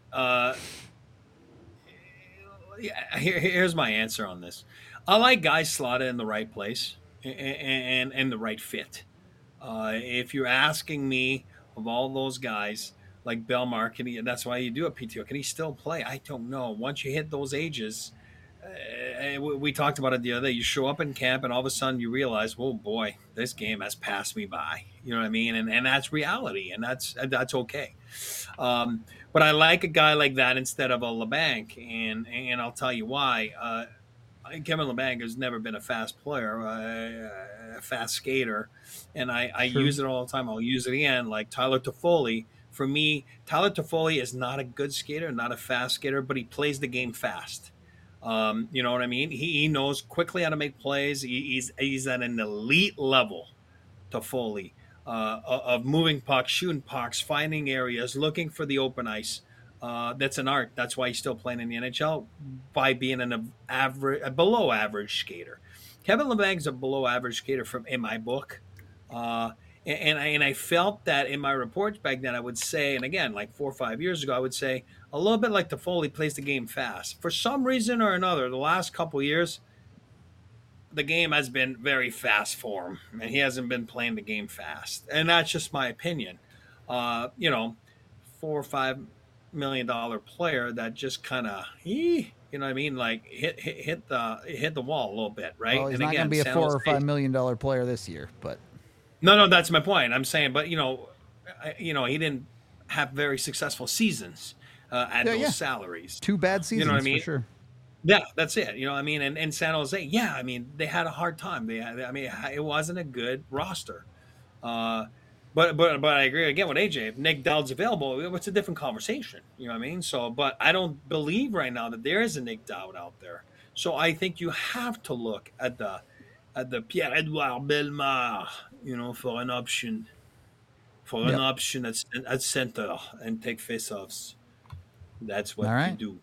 here's my answer on this. I like guys slotted in the right place and the right fit. If you're asking me of all those guys like Belmar, that's why you do a PTO. Can he still play? I don't know. Once you hit those ages, we talked about it the other day. You show up in camp and all of a sudden you realize, oh boy, this game has passed me by. You know what I mean? And that's reality, and that's okay. But I like a guy like that instead of a Labanc, and I'll tell you why. Kevin Labanc has never been a fast player, a fast skater, and I use it all the time. I'll use it again, like Tyler Toffoli. For me, Tyler Toffoli is not a good skater, not a fast skater, but he plays the game fast. You know what I mean? He knows quickly how to make plays. He's at an elite level, Toffoli. of moving pucks, shooting pucks, finding areas, looking for the open ice. That's an art. That's why he's still playing in the NHL by being a below average skater. Kevin Laban's a below average skater in my book. And I felt that in my reports back then, I would say, and again, like 4 or 5 years ago, I would say a little bit like Toffoli plays the game fast. For some reason or another, the last couple of years, the game has been very fast for him, and he hasn't been playing the game fast. And that's just my opinion. $4 or $5 million player that just kind of, you know what I mean, like hit the wall a little bit, right? Well, he's and not going to be a $4 or $5 million player this year, but. No, that's my point. I'm saying, but he didn't have very successful seasons at those salaries. 2 bad seasons, you know what I mean? For sure. Yeah, that's it. You know what I mean? And San Jose, yeah, I mean, they had a hard time. It wasn't a good roster. But I agree again with AJ. If Nick Dowd's available, it's a different conversation. You know what I mean? So, but I don't believe right now that there is a Nick Dowd out there. So I think you have to look at the Pierre-Edouard Bellemare, for an option. An option at center and take face-offs. That's what you do.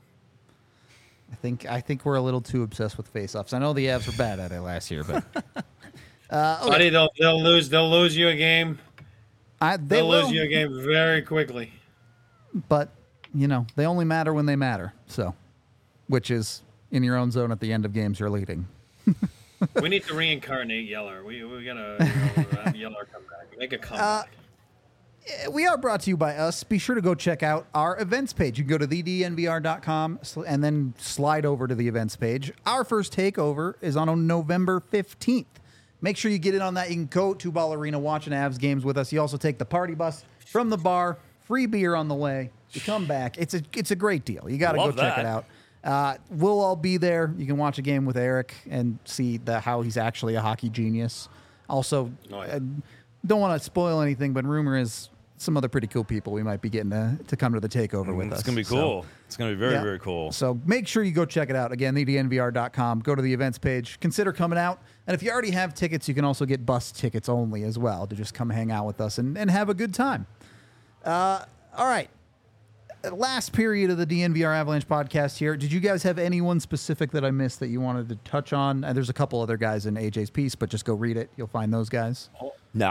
I think we're a little too obsessed with face-offs. I know the Avs were bad at it last year, but okay. Buddy, they'll lose you a game. They'll lose you a game very quickly. But they only matter when they matter. So, which is in your own zone at the end of games you're leading. We need to reincarnate Yeller. We gotta have Yeller come back, make a comeback. We are brought to you by us. Be sure to go check out our events page. You can go to thednvr.com and then slide over to the events page. Our first takeover is on November 15th. Make sure you get in on that. You can go to Ball Arena, watch an Avs games with us. You also take the party bus from the bar, free beer on the way. You come back. It's a great deal. You got to go check it out. We'll all be there. You can watch a game with Eric and see how he's actually a hockey genius. Also, don't want to spoil anything, but rumor is some other pretty cool people we might be getting to come to the takeover with us. It's going to be cool. So, it's going to be very, very cool. So make sure you go check it out. Again, thednvr.com. Go to the events page. Consider coming out. And if you already have tickets, you can also get bus tickets only as well to just come hang out with us and have a good time. All right. Last period of the DNVR Avalanche podcast here. Did you guys have anyone specific that I missed that you wanted to touch on? There's a couple other guys in AJ's piece, but just go read it. You'll find those guys. No,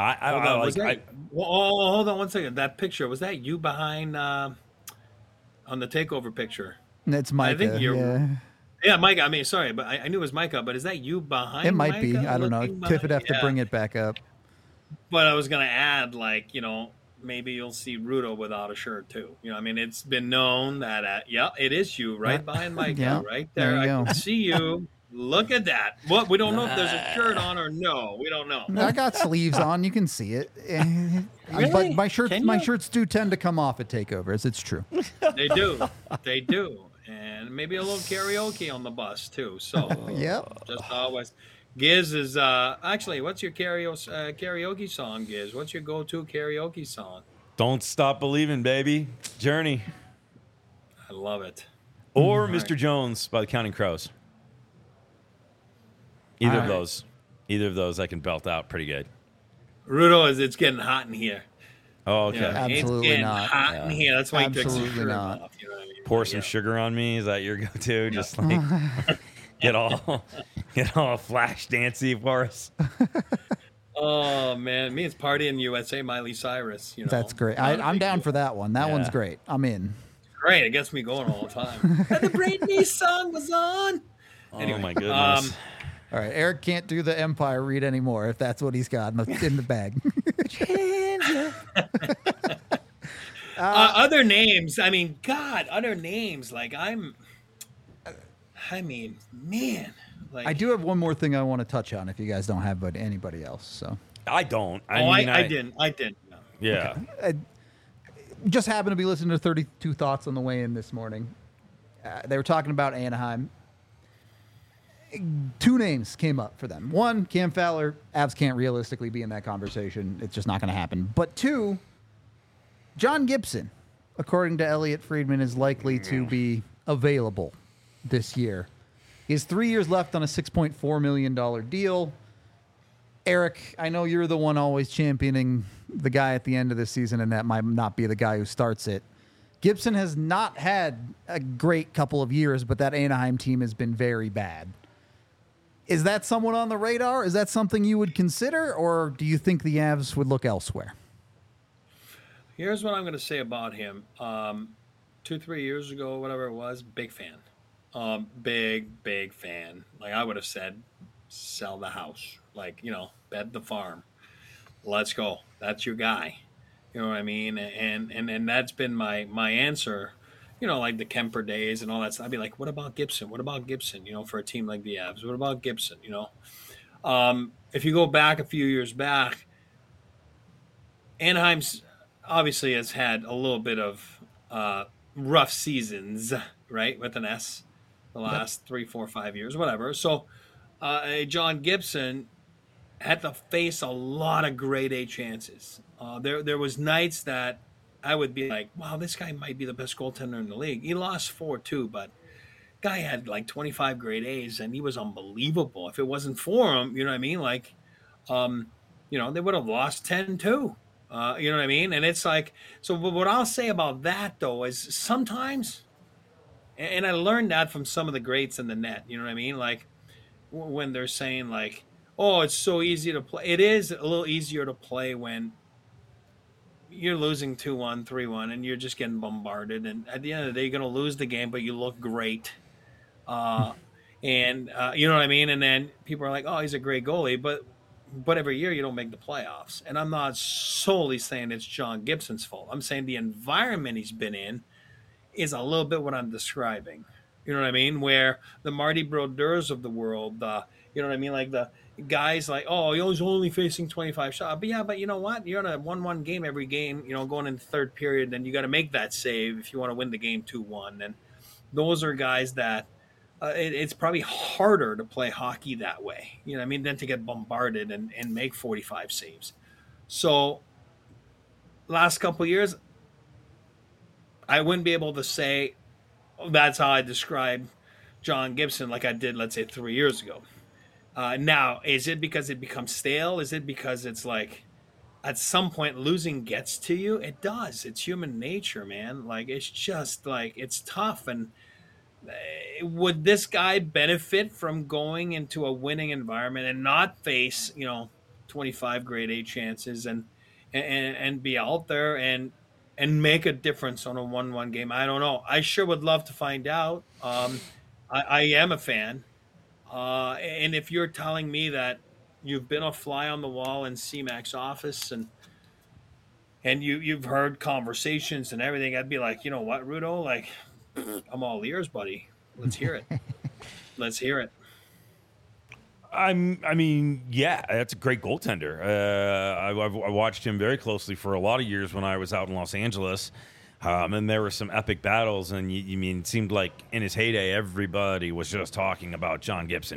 hold on one second. That picture, was that you behind on the takeover picture? It's Micah. I think yeah, Micah. I mean, sorry, but I knew it was Micah. But is that you behind? It might Micah be. I don't know. Tiff would have to bring it back up. But I was gonna add, maybe you'll see Rudo without a shirt too. I mean, it's been known that it is you right behind Micah, right there. I can see you. Look at that. What? We don't know if there's a shirt on or no. We don't know. I got sleeves on. You can see it. Really? But my shirts do tend to come off at takeovers. It's true. They do. They do. And maybe a little karaoke on the bus too. So just always. Giz is actually. What's your karaoke song, Giz? What's your go-to karaoke song? Don't Stop Believing, baby. Journey. I love it. Or Mr. Jones by the Counting Crows. Either of those I can belt out pretty good. Rudo, it's getting hot in here. Oh, okay. Absolutely it's not. Hot in here. That's why he took some sugar off. You know what I mean? Pour some sugar on me. Is that your go-to? Just like get all flash dancey for us. Oh man, me it's Party in USA, Miley Cyrus. That's great. I'm down for that one. That one's great. I'm in. Great, it gets me going all the time. And the Britney song was on. Anyway, oh my goodness. All right, Eric can't do the Empire read anymore if that's what he's got in the bag. Other names. I mean, God, other names. Like man. Like, I do have one more thing I want to touch on if you guys don't have but anybody else. So I don't. I didn't. No. Yeah. Okay. Just happened to be listening to 32 Thoughts on the way in this morning. They were talking about Anaheim. 2 names came up for them. 1, Cam Fowler. Avs can't realistically be in that conversation. It's just not going to happen. But 2, John Gibson, according to Elliot Friedman, is likely to be available this year. He has 3 years left on a $6.4 million deal. Eric, I know you're the one always championing the guy at the end of the season, and that might not be the guy who starts it. Gibson has not had a great couple of years, but that Anaheim team has been very bad. Is that someone on the radar? Is that something you would consider, or do you think the Avs would look elsewhere? Here's what I'm going to say about him. 2-3 years ago, whatever it was, big fan. Big fan. Like I would have said, sell the house. Like, bet the farm. Let's go. That's your guy. You know what I mean? And that's been my answer. Like the Kemper days and all that stuff. I'd be like, what about Gibson? What about Gibson? For a team like the Avs. What about Gibson? If you go back a few years back, Anaheim's obviously has had a little bit of rough seasons, right? With an S, the last 3, 4, 5 years, whatever. So John Gibson had to face a lot of grade A chances. There was nights that I would be like, wow, this guy might be the best goaltender in the league. He lost 4-2, but guy had like 25 grade A's, and he was unbelievable. If it wasn't for him, you know what I mean? Like, they would have lost 10-2. You know what I mean? And it's like, so what I'll say about that, though, is sometimes, and I learned that from some of the greats in the net, you know what I mean? Like, when they're saying, like, oh, it's so easy to play. It is a little easier to play when you're losing 2-1, 3-1, and you're just getting bombarded. And at the end of the day, you're going to lose the game, but you look great. And you know what I mean? And then people are like, oh, he's a great goalie. But every year you don't make the playoffs. And I'm not solely saying it's John Gibson's fault. I'm saying the environment he's been in is a little bit what I'm describing. You know what I mean? Where the Marty Brodeurs of the world, you know what I mean? Like the guys like, oh, he's only facing 25 shots. But you know what? You're on a 1-1 game every game, going into the third period, and you got to make that save if you want to win the game 2-1. And those are guys that it's probably harder to play hockey that way, you know what I mean, than to get bombarded and make 45 saves. So last couple of years, I wouldn't be able to say that's how I describe John Gibson like I did, let's say, 3 years ago. Now, is it because it becomes stale? Is it because it's like at some point losing gets to you? It does. It's human nature, man. Like, it's just like, it's tough. And would this guy benefit from going into a winning environment and not face, 25 grade A chances and be out there and make a difference on a 1-1 game? I don't know. I sure would love to find out. I am a fan. And if you're telling me that you've been a fly on the wall in C-Mac's office and you've heard conversations and everything, I'd be like, you know what, Rudo? Like, I'm all ears, buddy. Let's hear it. Let's hear it. I mean, yeah, that's a great goaltender. I watched him very closely for a lot of years when I was out in Los Angeles. And there were some epic battles, and it seemed like in his heyday, everybody was just talking about John Gibson.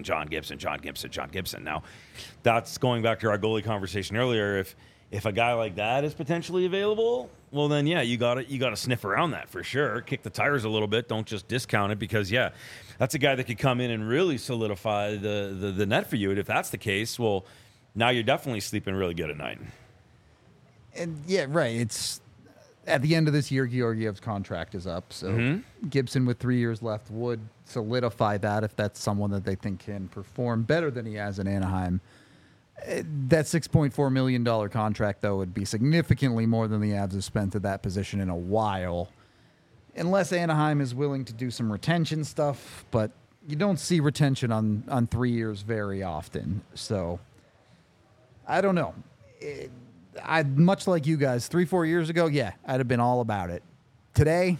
Now, that's going back to our goalie conversation earlier. If a guy like that is potentially available, well, then yeah, you got to sniff around that for sure. Kick the tires a little bit. Don't just discount it, because yeah, that's a guy that could come in and really solidify the net for you. And if that's the case, well, now you're definitely sleeping really good at night. And yeah, right. It's at the end of this year, Georgiev's contract is up. So Gibson with 3 years left would solidify that if that's someone that they think can perform better than he has in Anaheim. That $6.4 million contract, though, would be significantly more than the Avs have spent at that position in a while. Unless Anaheim is willing to do some retention stuff, but you don't see retention on 3 years very often. So I don't know. I'd much like you guys, 3-4 years ago, yeah, I'd have been all about it. Today,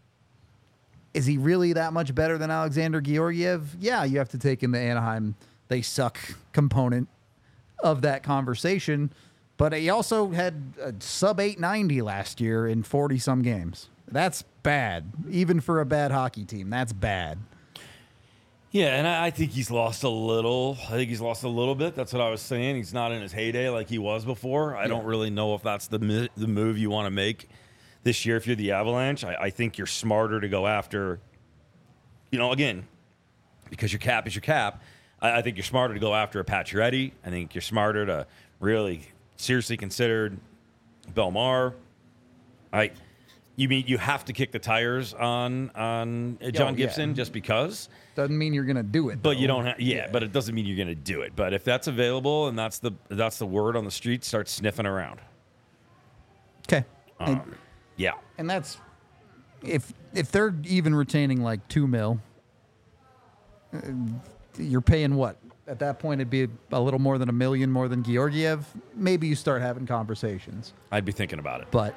is he really that much better than Alexander Georgiev? Yeah, you have to take in the Anaheim they suck component of that conversation, but he also had a sub 890 last year in 40 some games. That's bad. Even for a bad hockey team, that's bad. Yeah, and I think he's lost a little. I think he's lost a little bit. That's what I was saying. He's not in his heyday like he was before. I don't really know if that's the move you want to make this year if you're the Avalanche. I think you're smarter to go after, again, because your cap is your cap. I think you're smarter to go after a Pacioretty. I think you're smarter to really seriously consider Belmar. You mean you have to kick the tires on John Gibson just because? Doesn't mean you're going to do it. But though. you don't have, but it doesn't mean you're going to do it. But if that's available and that's the word on the street, start sniffing around. Okay. Yeah. And that's if they're even retaining like $2 million, you're paying what? At that point, it'd be a little more than $1 million more than Georgiev. Maybe you start having conversations. I'd be thinking about it. But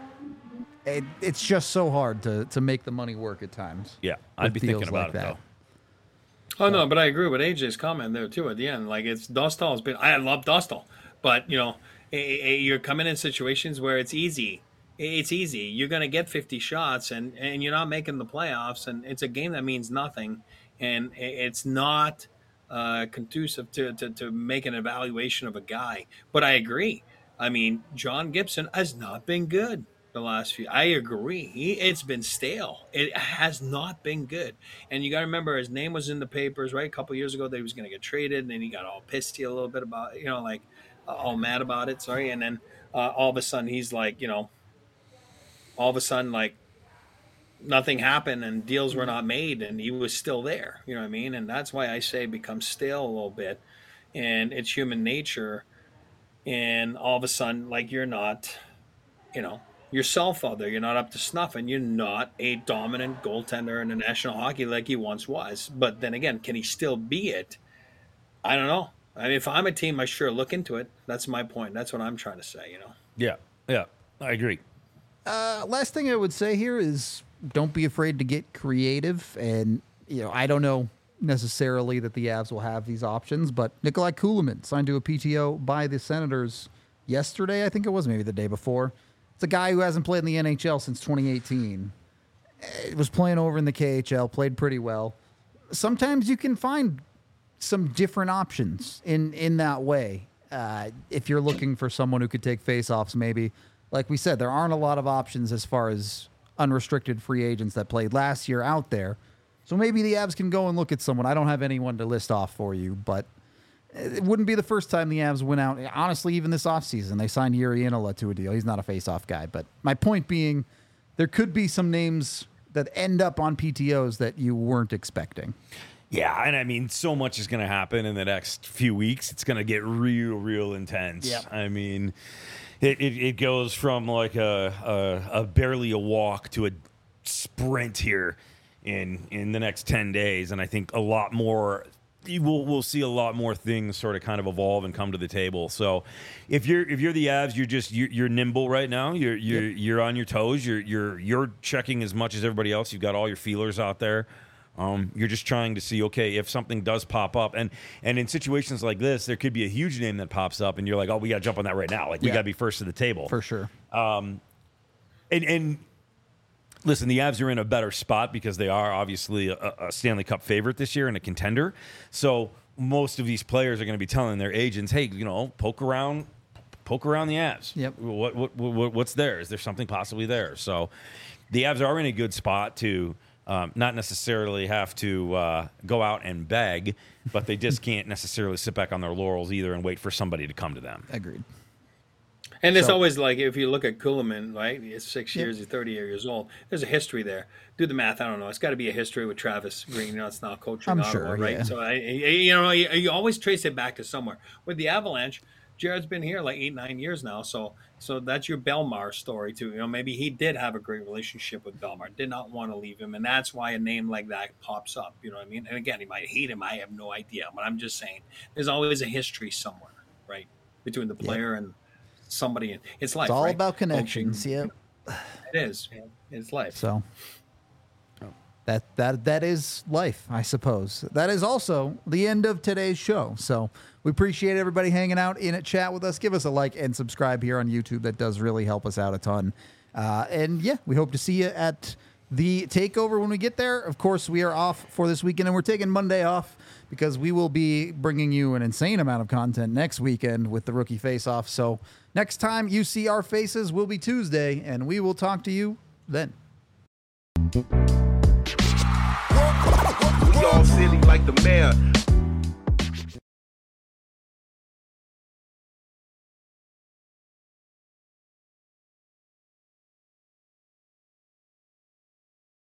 it's just so hard to make the money work at times. Yeah, I'd be thinking about like it, though. Oh, no, but I agree with AJ's comment there, too, at the end. Like, it's Dostal's been – I love Dostal. But, you know, you're coming in situations where it's easy. It's easy. You're going to get 50 shots, and you're not making the playoffs, and it's a game that means nothing. And it's not conducive to make an evaluation of a guy. But I agree. I mean, John Gibson has not been good the last few. I agree. It's been stale. It has not been good. And you got to remember, his name was in the papers, right, a couple of years ago that he was going to get traded, and then he got all pissy a little bit about, you know, like all mad about it. Sorry. And then all of a sudden he's like, you know, all of a sudden, like, nothing happened and deals were not made, and he was still there. You know what I mean? And that's why I say it becomes stale a little bit, and it's human nature. And all of a sudden, like, you're not, you know, yourself out there. You're not up to snuff, and you're not a dominant goaltender in the National Hockey like he once was. But then again, can he still be it? I don't know. I mean, if I'm a team, I sure look into it. That's my point. That's what I'm trying to say, you know? Yeah, I agree. Last thing I would say here is don't be afraid to get creative. And, you know, I don't know necessarily that the Avs will have these options, but Nikolai Kulemin signed to a PTO by the Senators yesterday, I think it was, maybe the day before. It's a guy who hasn't played in the NHL since 2018. It was playing over in the KHL, played pretty well. Sometimes you can find some different options in that way. If you're looking for someone who could take faceoffs, maybe. Like we said, there aren't a lot of options as far as unrestricted free agents that played last year out there. So maybe the Avs can go and look at someone. I don't have anyone to list off for you, but it wouldn't be the first time the Avs went out. Honestly, even this offseason, they signed Yuri Inola to a deal. He's not a face-off guy. But my point being, there could be some names that end up on PTOs that you weren't expecting. Yeah, and I mean, so much is going to happen in the next few weeks. It's going to get real intense. Yep. I mean, it goes from like a barely a walk to a sprint here in the next 10 days, and I think a lot more. We'll see a lot more things sort of kind of evolve and come to the table. So, if you're the Avs, you're nimble right now. You're on your toes. You're checking as much as everybody else. You've got all your feelers out there. You're just trying to see, okay, if something does pop up, and in situations like this, there could be a huge name that pops up, and you're like, oh, we got to jump on that right now. Like we got to be first to the table For sure. And listen, the Avs are in a better spot because they are obviously a Stanley Cup favorite this year and a contender. So most of these players are going to be telling their agents, hey, you know, poke around the Avs. Yep. What's there? Is there something possibly there? So the Avs are in a good spot to not necessarily have to go out and beg, but they just can't necessarily sit back on their laurels either and wait for somebody to come to them. Agreed. And it's always like, if you look at Kulemin, right? It's 6 years, he's 30 years old. There's a history there. Do the math. I don't know. It's got to be a history with Travis Green. You know, it's not coaching I'm Ottawa, sure, right? yeah. So, you always trace it back to somewhere. With the Avalanche, Jared's been here like 8-9 years now. So that's your Belmar story, too. You know, maybe he did have a great relationship with Belmar, did not want to leave him. And that's why a name like that pops up. You know what I mean? And again, he might hate him. I have no idea. But I'm just saying there's always a history somewhere, right? Between the player and somebody. It's life. It's all right? about connections. Coaching. Yep. It is. It's life. So that is life, I suppose. That is also the end of today's show. So we appreciate everybody hanging out in a chat with us. Give us a like and subscribe here on YouTube. That does really help us out a ton. And yeah, we hope to see you at the takeover when we get there. Of course, we are off for this weekend, and we're taking Monday off because we will be bringing you an insane amount of content next weekend with the Rookie Face-Off. So next time you see our faces will be Tuesday, and we will talk to you then. We all silly like the mayor.